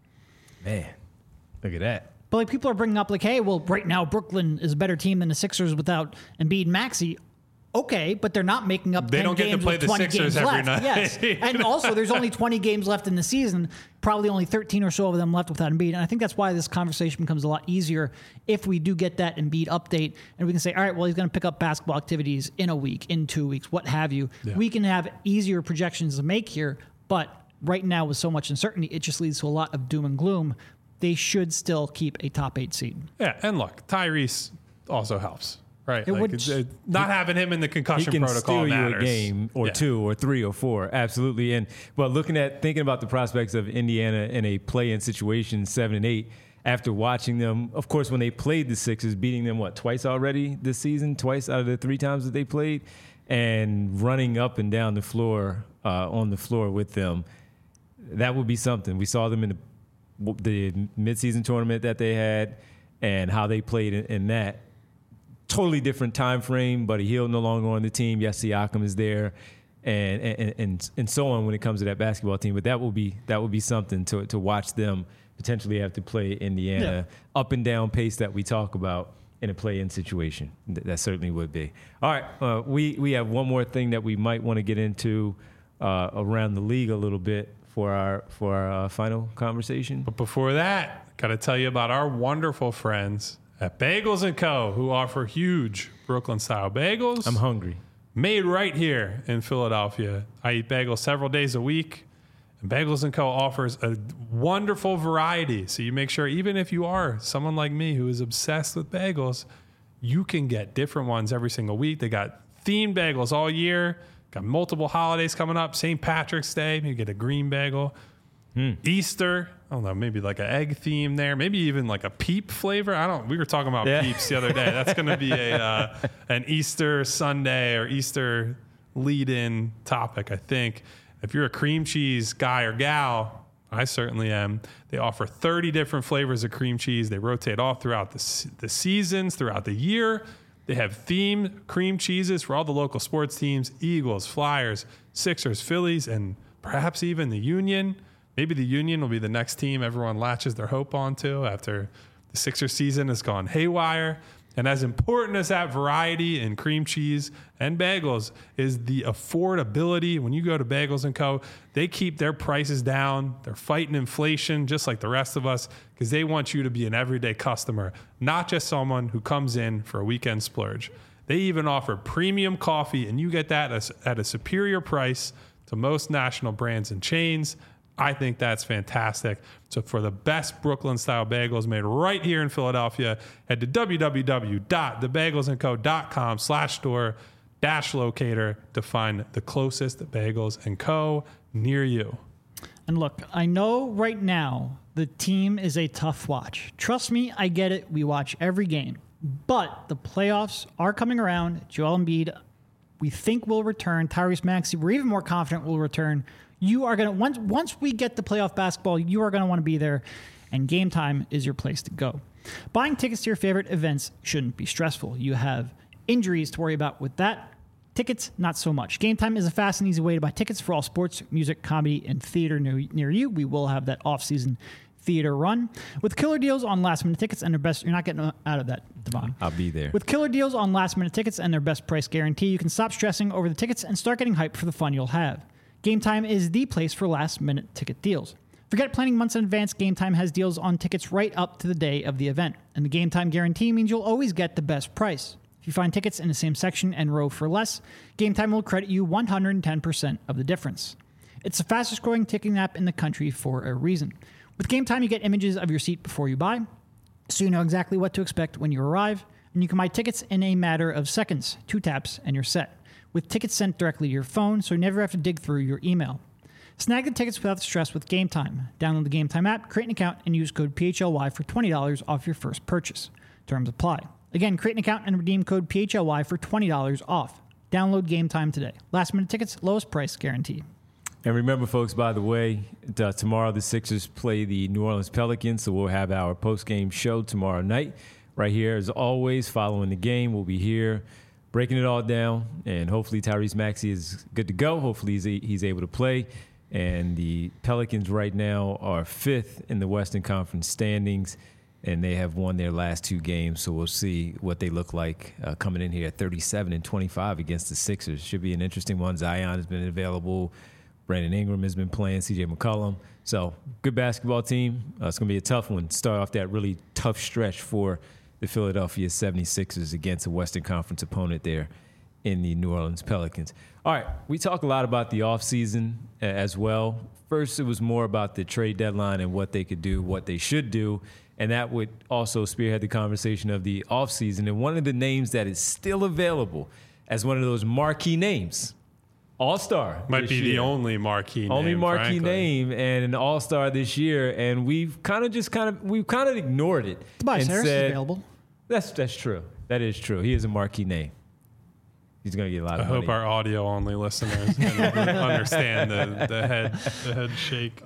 Man, look at that. But like, people are bringing up like, hey, well, right now Brooklyn is a better team than the Sixers without Embiid and Maxey. Okay, but they're not making up 10 games. They don't get to play the Sixers every night. Yes, and also there's only 20 games left in the season, probably only 13 or so of them left without Embiid. And I think that's why this conversation becomes a lot easier if we do get that Embiid update and we can say, all right, well, he's going to pick up basketball activities in a week, in 2 weeks, what have you. Yeah. We can have easier projections to make here, but right now with so much uncertainty, it just leads to a lot of doom and gloom. They should still keep a top 8 seed. Yeah, and look, Tyrese also helps. Right, not having him in the concussion protocol matters. You a game or 2 or 3 or 4, absolutely. But thinking about the prospects of Indiana in a play-in situation, 7 and 8, after watching them, of course, when they played the Sixers, beating them twice already this season, twice out of the 3 times that they played, and running up and down the floor on the floor with them, that would be something. We saw them in the midseason tournament that they had, and how they played in that. Totally different time frame. Buddy Hield no longer on the team. Yes, Siakam is there, and so on when it comes to that basketball team. But that will be something to watch them potentially have to play Indiana up and down pace that we talk about in a play-in situation. That certainly would be. All right, we have one more thing that we might want to get into around the league a little bit for our final conversation. But before that, got to tell you about our wonderful friends at Bagels & Co., who offer huge Brooklyn-style bagels. I'm hungry. made right here in Philadelphia. I eat bagels several days a week. And Bagels & Co. offers a wonderful variety. So you make sure, even if you are someone like me who is obsessed with bagels, you can get different ones every single week. They got themed bagels all year. Got multiple holidays coming up. St. Patrick's Day, maybe get a green bagel. Easter, I don't know, maybe like an egg theme there. Maybe even like a peep flavor. We were talking about peeps the other day. That's going to be an Easter Sunday or Easter lead-in topic, I think. If you're a cream cheese guy or gal, I certainly am. They offer 30 different flavors of cream cheese. They rotate all throughout the seasons, throughout the year. They have themed cream cheeses for all the local sports teams, Eagles, Flyers, Sixers, Phillies, and perhaps even the Union. Maybe the Union will be the next team everyone latches their hope onto after the Sixers season has gone haywire. And as important as that variety in cream cheese and bagels is the affordability. When you go to Bagels & Co., they keep their prices down. They're fighting inflation just like the rest of us because they want you to be an everyday customer, not just someone who comes in for a weekend splurge. They even offer premium coffee, and you get that at a superior price to most national brands and chains. I think that's fantastic. So for the best Brooklyn-style bagels made right here in Philadelphia, head to www.thebagelsandco.com/store-locator to find the closest Bagels & Co. near you. And look, I know right now the team is a tough watch. Trust me, I get it. We watch every game. But the playoffs are coming around. Joel Embiid, we think, will return. Tyrese Maxey, we're even more confident will return. You are going to, once we get to playoff basketball, you are going to want to be there, and Game Time is your place to go. Buying tickets to your favorite events shouldn't be stressful. You have injuries to worry about with that. Tickets, not so much. Game Time is a fast and easy way to buy tickets for all sports, music, comedy, and theater near you. We will have that off-season theater run with killer deals on last-minute tickets and their best. You're not getting out of that, Devon. I'll be there. With killer deals on last-minute tickets and their best price guarantee, you can stop stressing over the tickets and start getting hyped for the fun you'll have. Game Time is the place for last-minute ticket deals. Forget planning months in advance. Game Time has deals on tickets right up to the day of the event. And the Game Time guarantee means you'll always get the best price. If you find tickets in the same section and row for less, Game Time will credit you 110% of the difference. It's the fastest-growing ticketing app in the country for a reason. With Game Time, you get images of your seat before you buy, so you know exactly what to expect when you arrive, and you can buy tickets in a matter of seconds. 2 taps and you're set. With tickets sent directly to your phone, so you never have to dig through your email. Snag the tickets without the stress with Game Time. Download the Game Time app, create an account, and use code PHLY for $20 off your first purchase. Terms apply. Again, create an account and redeem code PHLY for $20 off. Download Game Time today. Last-minute tickets, lowest price guarantee. And remember, folks, by the way, tomorrow the Sixers play the New Orleans Pelicans, so we'll have our post-game show tomorrow night. Right here, as always, following the game, we'll be here breaking it all down, and hopefully Tyrese Maxey is good to go. Hopefully he's able to play. And the Pelicans right now are 5th in the Western Conference standings, and they have won their last 2 games. So we'll see what they look like coming in here at 37-25 against the Sixers. Should be an interesting one. Zion has been available. Brandon Ingram has been playing. CJ McCollum. So good basketball team. It's going to be a tough one. Start off that really tough stretch for the Philadelphia 76ers against a Western Conference opponent there in the New Orleans Pelicans. All right, we talk a lot about the offseason as well. First, it was more about the trade deadline and what they could do, what they should do, and that would also spearhead the conversation of the offseason. And one of the names that is still available as one of those marquee names, All-Star. Might be the only marquee name and an All-Star this year, and we've kind of ignored it. Tobias Harris is available. That's true. That is true. He is a marquee name. He's going to get a lot of money. I hope our audio-only listeners can understand the head shake.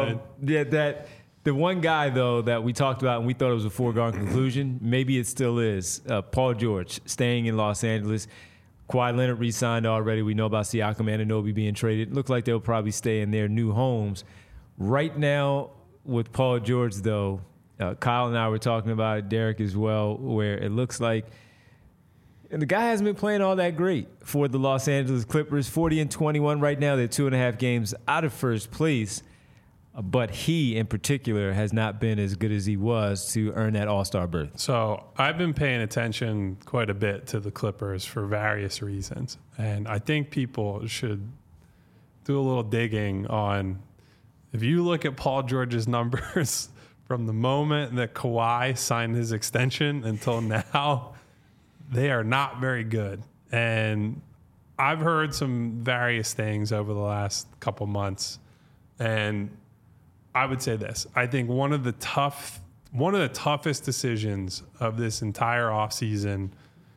The one guy, though, that we talked about and we thought it was a foregone conclusion, maybe it still is, Paul George, staying in Los Angeles. Kawhi Leonard re-signed already. We know about Siakam and Anunoby being traded. Looks like they'll probably stay in their new homes. Right now, with Paul George, though, Kyle and I were talking about it, Derek as well, where it looks like the guy hasn't been playing all that great for the Los Angeles Clippers. 40-21 right now. They're 2.5 games out of first place. but he in particular has not been as good as he was to earn that All-Star berth. So I've been paying attention quite a bit to the Clippers for various reasons. And I think people should do a little digging on, if you look at Paul George's numbers from the moment that Kawhi signed his extension until now, they are not very good. And I've heard some various things over the last couple months. And I would say this. I think one of the toughest decisions of this entire offseason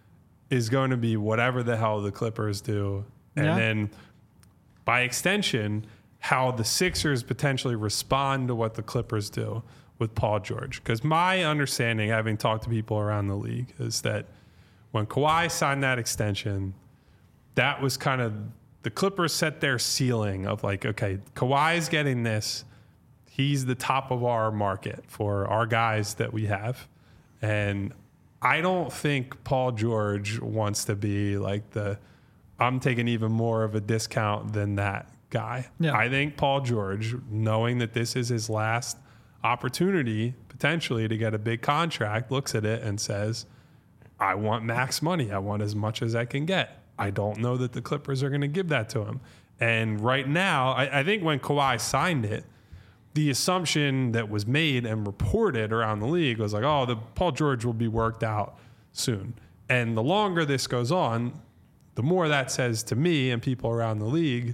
is going to be whatever the hell the Clippers do. And then by extension, how the Sixers potentially respond to what the Clippers do with Paul George. Because my understanding, having talked to people around the league, is that when Kawhi signed that extension, that was kind of the Clippers set their ceiling of like, okay, Kawhi's getting this. He's the top of our market for our guys that we have. And I don't think Paul George wants to be like I'm taking even more of a discount than that guy. Yeah. I think Paul George, knowing that this is his last opportunity potentially to get a big contract, looks at it and says, I want max money. I want as much as I can get. I don't know that the Clippers are going to give that to him. And right now, I think when Kawhi signed it, the assumption that was made and reported around the league was like, oh, the Paul George will be worked out soon. And the longer this goes on, the more that says to me and people around the league,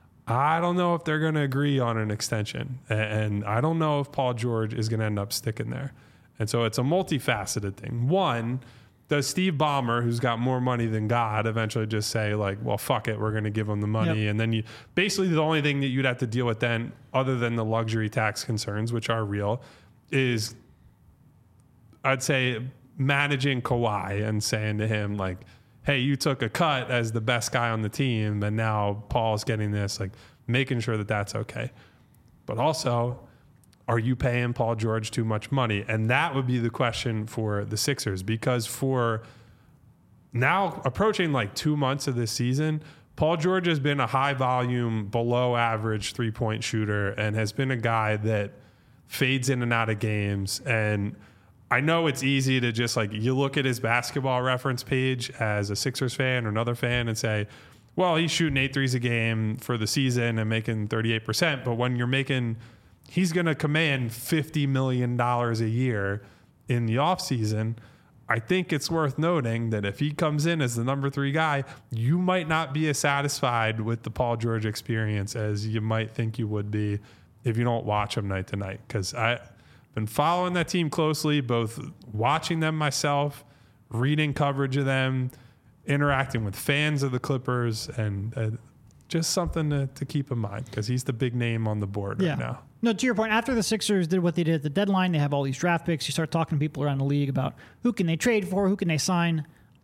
I don't know if they're going to agree on an extension. And I don't know if Paul George is going to end up sticking there. And so it's a multifaceted thing. One, does Steve Ballmer, who's got more money than God, eventually just say like, well, fuck it, we're going to give him the money? Yep. And then basically the only thing that you'd have to deal with then, other than the luxury tax concerns, which are real, is I'd say managing Kawhi and saying to him like, hey, you took a cut as the best guy on the team, and now Paul's getting this, like making sure that that's okay. But also, are you paying Paul George too much money? And that would be the question for the Sixers, because for now approaching like 2 months of this season, Paul George has been a high volume, below average 3-point shooter and has been a guy that fades in and out of games. And I know it's easy to just like, you look at his basketball reference page as a Sixers fan or another fan and say, well, he's shooting 8 threes a game for the season and making 38%. But when he's going to command $50 million a year in the offseason, I think it's worth noting that if he comes in as the number 3 guy, you might not be as satisfied with the Paul George experience as you might think you would be if you don't watch him night to night. Because I've been following that team closely, both watching them myself, reading coverage of them, interacting with fans of the Clippers, and just something to keep in mind because he's the big name on the board right now. No, to your point, after the Sixers did what they did at the deadline, they have all these draft picks. You start talking to people around the league about who can they trade for, who can they sign.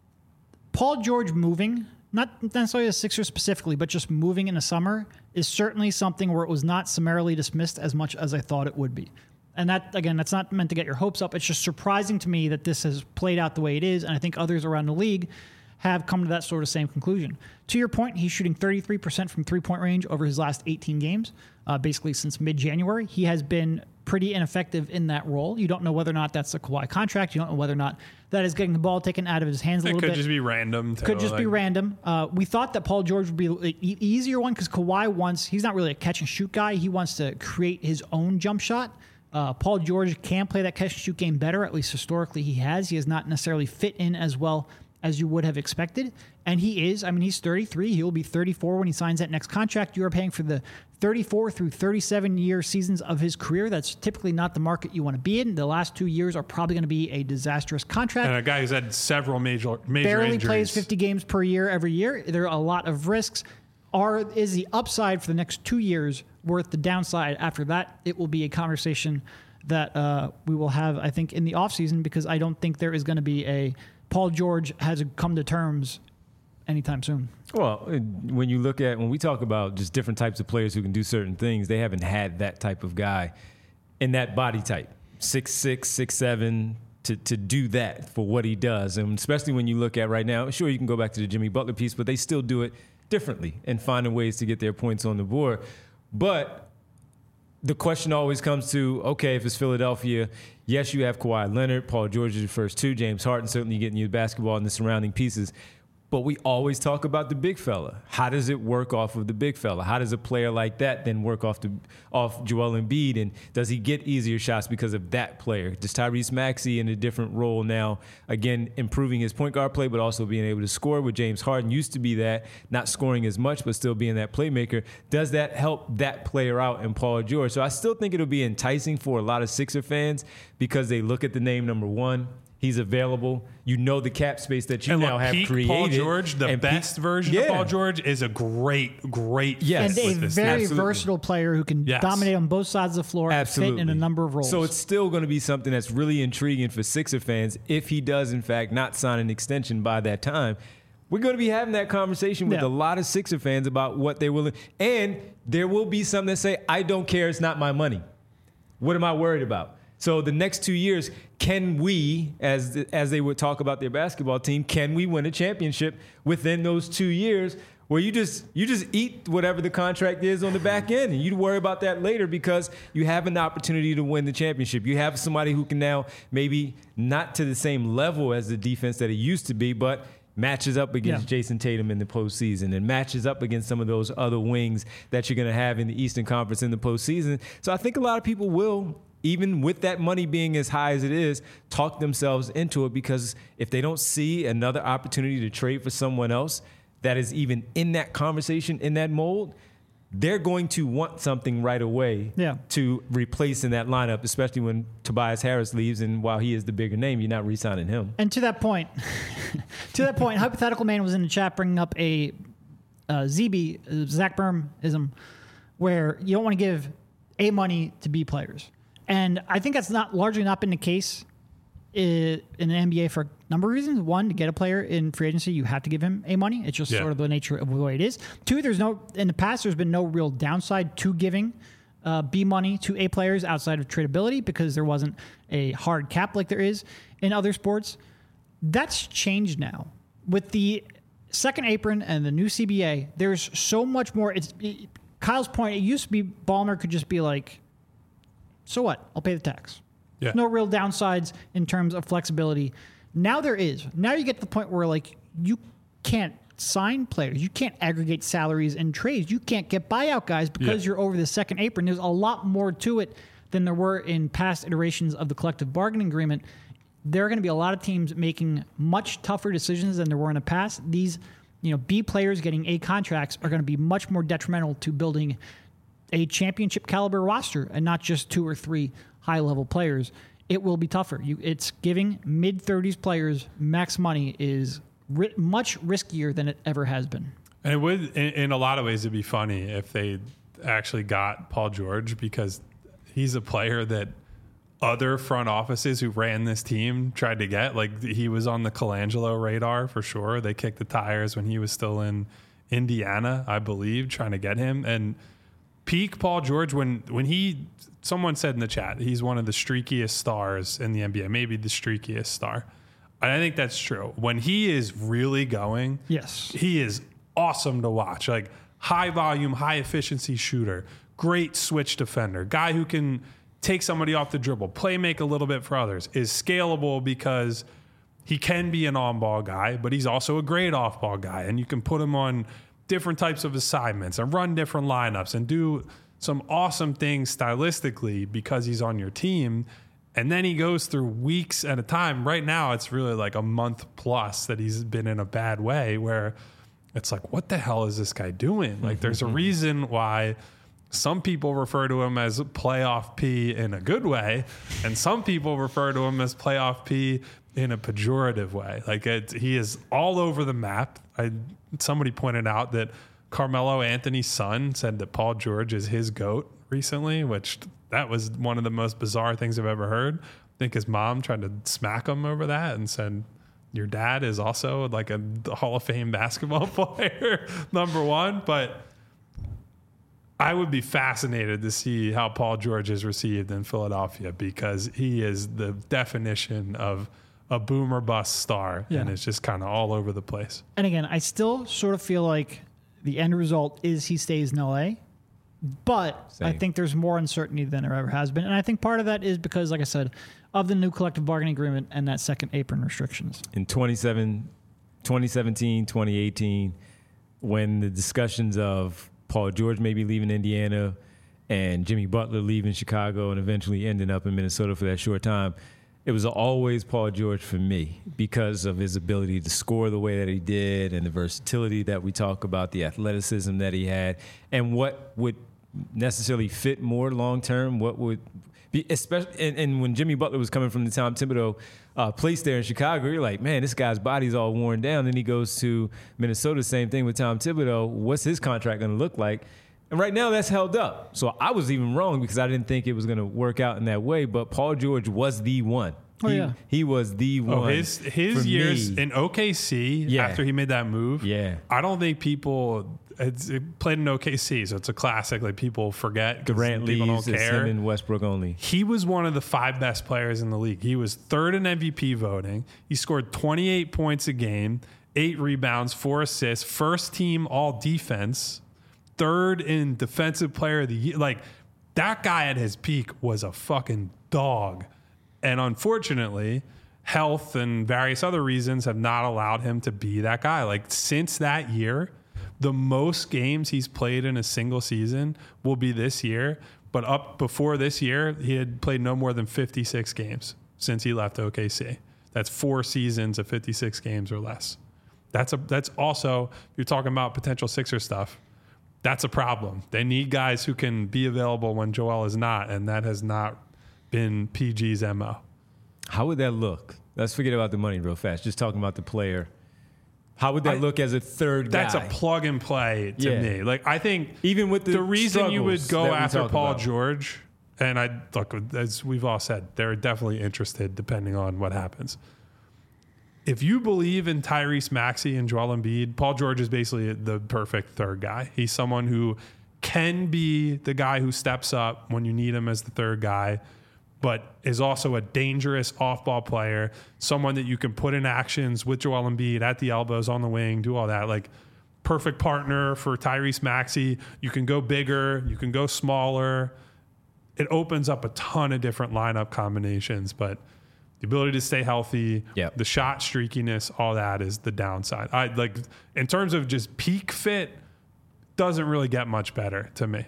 Paul George moving, not necessarily the Sixers specifically, but just moving in the summer is certainly something where it was not summarily dismissed as much as I thought it would be. And that, again, that's not meant to get your hopes up. It's just surprising to me that this has played out the way it is, and I think others around the league have come to that sort of same conclusion. To your point, he's shooting 33% from three-point range over his last 18 games, basically since mid-January. He has been pretty ineffective in that role. You don't know whether or not that's a Kawhi contract. You don't know whether or not that is getting the ball taken out of his hands a little bit. It could just be random. Could just be random. We thought that Paul George would be the easier one because Kawhi he's not really a catch-and-shoot guy. He wants to create his own jump shot. Paul George can play that catch-and-shoot game better, at least historically he has. He has not necessarily fit in as well as you would have expected. And he is. I mean, he's 33. He will be 34 when he signs that next contract. You are paying for the 34 through 37-year seasons of his career. That's typically not the market you want to be in. The last 2 years are probably going to be a disastrous contract. And a guy who's had several major barely injuries. Plays 50 games per year every year. There are a lot of risks. Is the upside for the next 2 years worth the downside? After that, it will be a conversation that we will have, I think, in the offseason, because I don't think there is going to be a Paul George has come to terms anytime soon. Well, when we talk about just different types of players who can do certain things, they haven't had that type of guy in that body type, 6'6", 6'7", to do that for what he does. And especially when you look at right now, sure, you can go back to the Jimmy Butler piece, but they still do it differently and finding ways to get their points on the board. But the question always comes to, okay, if it's Philadelphia, yes, you have Kawhi Leonard, Paul George is your first two, James Harden certainly getting you the basketball and the surrounding pieces. But we always talk about the big fella. How does it work off of the big fella? How does a player like that then work off Joel Embiid? And does he get easier shots because of that player? Does Tyrese Maxey in a different role now, again, improving his point guard play, but also being able to score with James Harden used to be that, not scoring as much, but still being that playmaker. Does that help that player out in Paul George? So I still think it'll be enticing for a lot of Sixer fans because they look at the name number one. He's available. You know the cap space that you now have created. Paul George, the best version of Paul George, is a great yes. And a very versatile player who can dominate on both sides of the floor and fit in a number of roles. So it's still going to be something that's really intriguing for Sixer fans if he does, in fact, not sign an extension by that time. We're going to be having that conversation with a lot of Sixer fans about what they're willing. And there will be some that say, I don't care, it's not my money. What am I worried about? So the next 2 years, can we, as they would talk about their basketball team, can we win a championship within those 2 years where you just eat whatever the contract is on the back end and you worry about that later because you have an opportunity to win the championship. You have somebody who can now maybe not to the same level as the defense that it used to be, but matches up against Jason Tatum in the postseason and matches up against some of those other wings that you're going to have in the Eastern Conference in the postseason. So I think a lot of people will, even with that money being as high as it is, talk themselves into it because if they don't see another opportunity to trade for someone else that is even in that conversation, in that mold, they're going to want something right away to replace in that lineup, especially when Tobias Harris leaves and while he is the bigger name, you're not re-signing him. And to that point, Hypothetical Man was in the chat bringing up a Zach Berm-ism where you don't want to give A money to B players. And I think that's largely not been the case in the NBA for a number of reasons. One, to get a player in free agency, you have to give him A money. It's just sort of the nature of the way it is. Two, in the past, there's been no real downside to giving B money to A players outside of tradability because there wasn't a hard cap like there is in other sports. That's changed now. With the second apron and the new CBA, there's so much more. Kyle's point, it used to be Ballmer could just be like, so what? I'll pay the tax. Yeah. No real downsides in terms of flexibility. Now there is. Now you get to the point where like you can't sign players. You can't aggregate salaries and trades. You can't get buyout guys because you're over the second apron. There's a lot more to it than there were in past iterations of the collective bargaining agreement. There are going to be a lot of teams making much tougher decisions than there were in the past. These, B players getting A contracts are going to be much more detrimental to building a championship caliber roster and not just 2 or 3 high level players. It will be tougher. It's giving mid-30s players max money is much riskier than it ever has been. And it would, in a lot of ways, it'd be funny if they actually got Paul George because he's a player that other front offices who ran this team tried to get. Like he was on the Colangelo radar for sure. They kicked the tires when he was still in Indiana, I believe, trying to get him. And peak Paul George, when someone said in the chat, he's one of the streakiest stars in the NBA, maybe the streakiest star. And I think that's true. When he is really going, he is awesome to watch. Like high volume, high efficiency shooter, great switch defender, guy who can take somebody off the dribble, play make a little bit for others, is scalable because he can be an on-ball guy, but he's also a great off-ball guy. And you can put him on different types of assignments and run different lineups and do some awesome things stylistically because he's on your team. And then he goes through weeks at a time. Right now, it's really like a month plus that he's been in a bad way where it's like, what the hell is this guy doing? Like, there's a reason why some people refer to him as playoff P in a good way, and some people refer to him as playoff P in a pejorative way. Like he is all over the map. Somebody pointed out that Carmelo Anthony's son said that Paul George is his GOAT recently, which that was one of the most bizarre things I've ever heard. I think his mom tried to smack him over that and said, your dad is also like a Hall of Fame basketball player, number one. But I would be fascinated to see how Paul George is received in Philadelphia because he is the definition of a boom or bust star, and it's just kind of all over the place. And again, I still sort of feel like the end result is he stays in LA, But Same. I think there's more uncertainty than there ever has been. And I think part of that is because, like I said, of the new collective bargaining agreement and that second apron restrictions. In 2017, 2018, when the discussions of Paul George maybe leaving Indiana and Jimmy Butler leaving Chicago and eventually ending up in Minnesota for that short time, it was always Paul George for me because of his ability to score the way that he did and the versatility that we talk about, the athleticism that he had, and what would necessarily fit more long-term, what would be, especially, and when Jimmy Butler was coming from the Tom Thibodeau place there in Chicago, you're like, man, this guy's body's all worn down. Then he goes to Minnesota, same thing with Tom Thibodeau. What's his contract going to look like? And right now that's held up. So I was even wrong because I didn't think it was going to work out in that way. But Paul George was the one. He was the one. His years in OKC after he made that move. Yeah. I don't think people played in OKC, so it's a classic. Like people forget. Durant people leaves, don't it's care. him and Westbrook only. He was one of the 5 best players in the league. He was 3rd in MVP voting. He scored 28 points a game, 8 rebounds, 4 assists, first team all defense, 3rd in defensive player of the year. Like that guy at his peak was a fucking dog. And unfortunately, health and various other reasons have not allowed him to be that guy. Like since that year, the most games he's played in a single season will be this year. But up before this year, he had played no more than 56 games since he left OKC. That's 4 seasons of 56 games or less. That's also, you're talking about potential Sixer stuff. That's a problem. They need guys who can be available when Joel is not, and that has not been PG's MO. How would that look? Let's forget about the money real fast. Just talking about the player. How would that look as a third guy? That's a plug and play to me. Like I think even with the reason you would go after Paul George, and I look, as we've all said, they're definitely interested depending on what happens. If you believe in Tyrese Maxey and Joel Embiid, Paul George is basically the perfect third guy. He's someone who can be the guy who steps up when you need him as the third guy, but is also a dangerous off-ball player, someone that you can put in actions with Joel Embiid at the elbows, on the wing, do all that. Like, perfect partner for Tyrese Maxey. You can go bigger, you can go smaller. It opens up a ton of different lineup combinations, but the ability to stay healthy, the shot streakiness, all that is the downside. I like in terms of just peak fit, doesn't really get much better to me.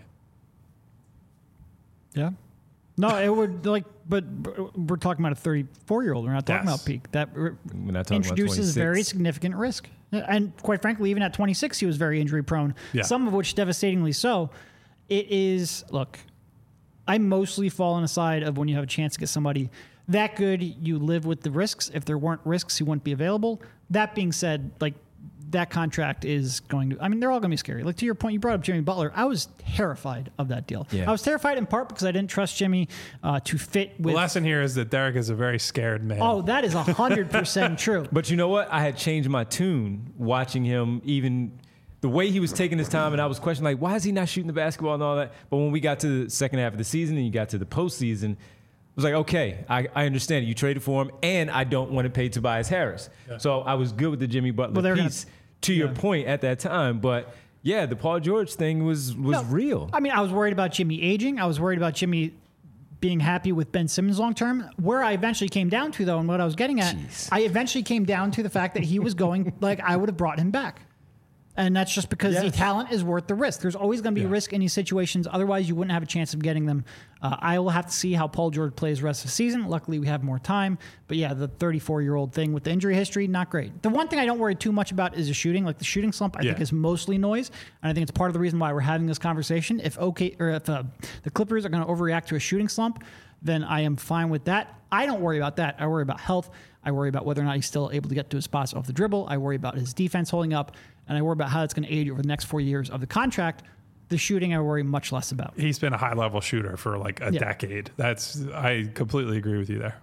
Yeah. No, it would but we're talking about a 34-year-old. We're not talking about peak. That introduces very significant risk. And quite frankly, even at 26, he was very injury prone, some of which devastatingly so. It is, look, I mostly fall on the side of when you have a chance to get somebody that good, you live with the risks. If there weren't risks, he wouldn't be available. That being said, like, that contract is going to, I mean, they're all going to be scary. Like, to your point, you brought up Jimmy Butler. I was terrified of that deal. I was terrified in part because I didn't trust Jimmy to fit with. The lesson here is that Derek is a very scared man. Oh, that is 100% true. But you know what? I had changed my tune watching him, even the way he was taking his time, and I was questioning, like, why is he not shooting the basketball and all that? But when we got to the second half of the season and you got to the postseason, I was like, okay, I understand it. You traded for him, and I don't want to pay Tobias Harris. So I was good with the Jimmy Butler piece. To your point at that time, but yeah, the Paul George thing was real. I mean, I was worried about Jimmy aging. I was worried about Jimmy being happy with Ben Simmons long term. Where I eventually came down to, though, and what I was getting at, I eventually came down to the fact that he was going, like, I would have brought him back. And that's just because the talent is worth the risk. There's always going to be risk in these situations. Otherwise, you wouldn't have a chance of getting them. I will have to see how Paul George plays the rest of the season. Luckily, we have more time. But yeah, the 34-year-old thing with the injury history, not great. The one thing I don't worry too much about is the shooting. Like, the shooting slump, I think, is mostly noise. And I think it's part of the reason why we're having this conversation. If the Clippers are going to overreact to a shooting slump, then I am fine with that. I don't worry about that. I worry about health. I worry about whether or not he's still able to get to his spots off the dribble. I worry about his defense holding up. And I worry about how it's going to age over the next 4 years of the contract. The shooting, I worry much less about. He's been a high-level shooter for like a decade. I completely agree with you there.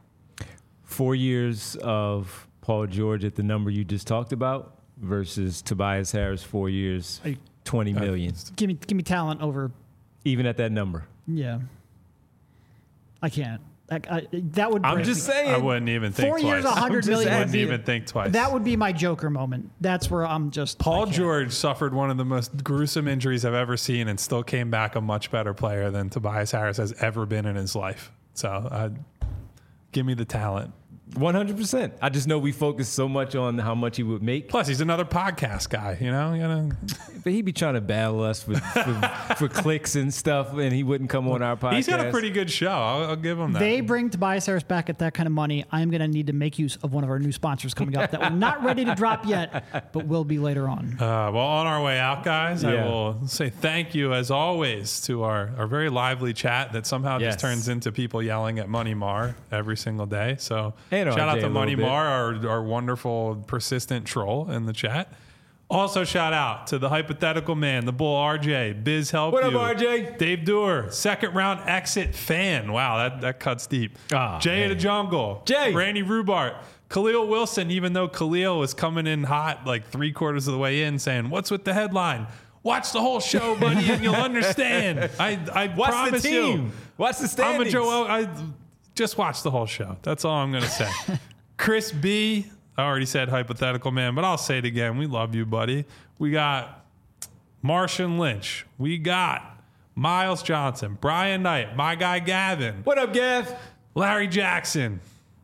4 years of Paul George at the number you just talked about versus Tobias Harris 4 years, $20 million. Give me talent over. Even at that number. Yeah. I can't. That would. I'm just saying. I wouldn't even think 4 twice. years, $100 million. I wouldn't even think twice. That would be my Joker moment. That's where I'm just. Paul George suffered one of the most gruesome injuries I've ever seen and still came back a much better player than Tobias Harris has ever been in his life. So give me the talent. 100%. I just know we focus so much on how much he would make. Plus, he's another podcast guy, you know? But he'd be trying to battle us for clicks and stuff, and he wouldn't come on our podcast. He's got a pretty good show. I'll give him that. They bring Tobias Harris back at that kind of money. I'm going to need to make use of one of our new sponsors coming up that we're not ready to drop yet, but will be later on. Well, on our way out, guys, I will say thank you, as always, to our very lively chat that somehow just turns into people yelling at Money Mar every single day. So shout out to Money Mar, our wonderful, persistent troll in the chat. Also, shout out to the hypothetical man, the bull RJ, Biz Help What You. up, RJ? Dave Doer, second round exit fan. Wow, that cuts deep. Jay of the Jungle. Jay. Randy Rubart. Khalil Wilson, even though Khalil was coming in hot like 3/4 of the way in saying, "What's with the headline? Watch the whole show, buddy, and you'll understand." I Watch promise the team. you. Watch the standings. I just watch the whole show. That's all I'm going to say. Chris B. I already said hypothetical man, but I'll say it again. We love you, buddy. We got Martian Lynch. We got Miles Johnson, Brian Knight, my guy Gavin. What up, Gav? Larry Jackson.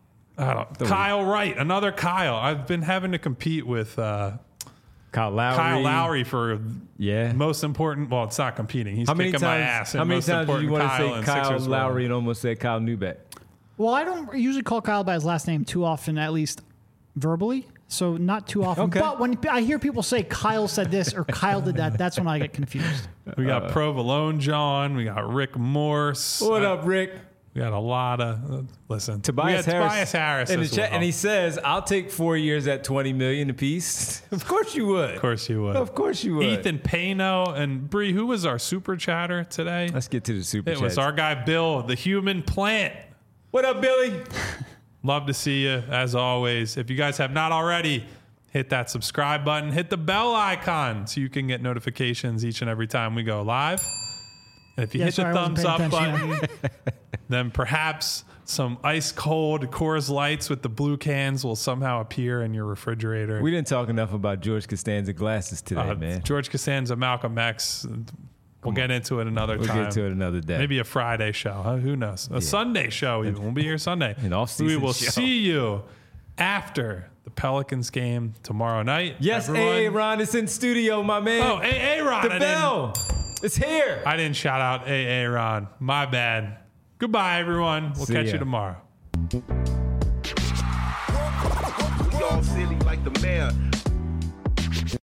Kyle Wright, another Kyle. I've been having to compete with Kyle Lowry for most important. Well, it's not competing. He's kicking my ass. How many times do you want to say Kyle Lowry and almost say Kyle Neubeck? Well, I don't usually call Kyle by his last name too often, at least verbally. So not too often. Okay. But when I hear people say Kyle said this or Kyle did that, that's when I get confused. We got Provolone John. We got Rick Morse. What up, Rick? We got a lot of listen. Tobias Harris in the as chat, well. and he says, "I'll take 4 years at $20 million apiece." Of course you would. Of course you would. Of course you would. Ethan Pano and Bree, who was our super chatter today? Let's get to the super chat. It was our guy Bill, the human plant. What up, Billy? Love to see you as always. If you guys have not already, hit that subscribe button, hit the bell icon so you can get notifications each and every time we go live. And if you hit the thumbs up button, then perhaps some ice cold Coors Lights with the blue cans will somehow appear in your refrigerator. We didn't talk enough about George Costanza glasses today, man. George Costanza, Malcolm X. We'll get into it another time. We'll get to it another day. Maybe a Friday show. Huh? Who knows? A Sunday show even. We'll be here Sunday. An off-season We will show. see you after the Pelicans game tomorrow night. Yes, everyone. Aaron is in studio, my man. Oh, Aaron. The bell. It's here. I didn't shout out Aaron. My bad. Goodbye, everyone. We'll See catch ya. you tomorrow.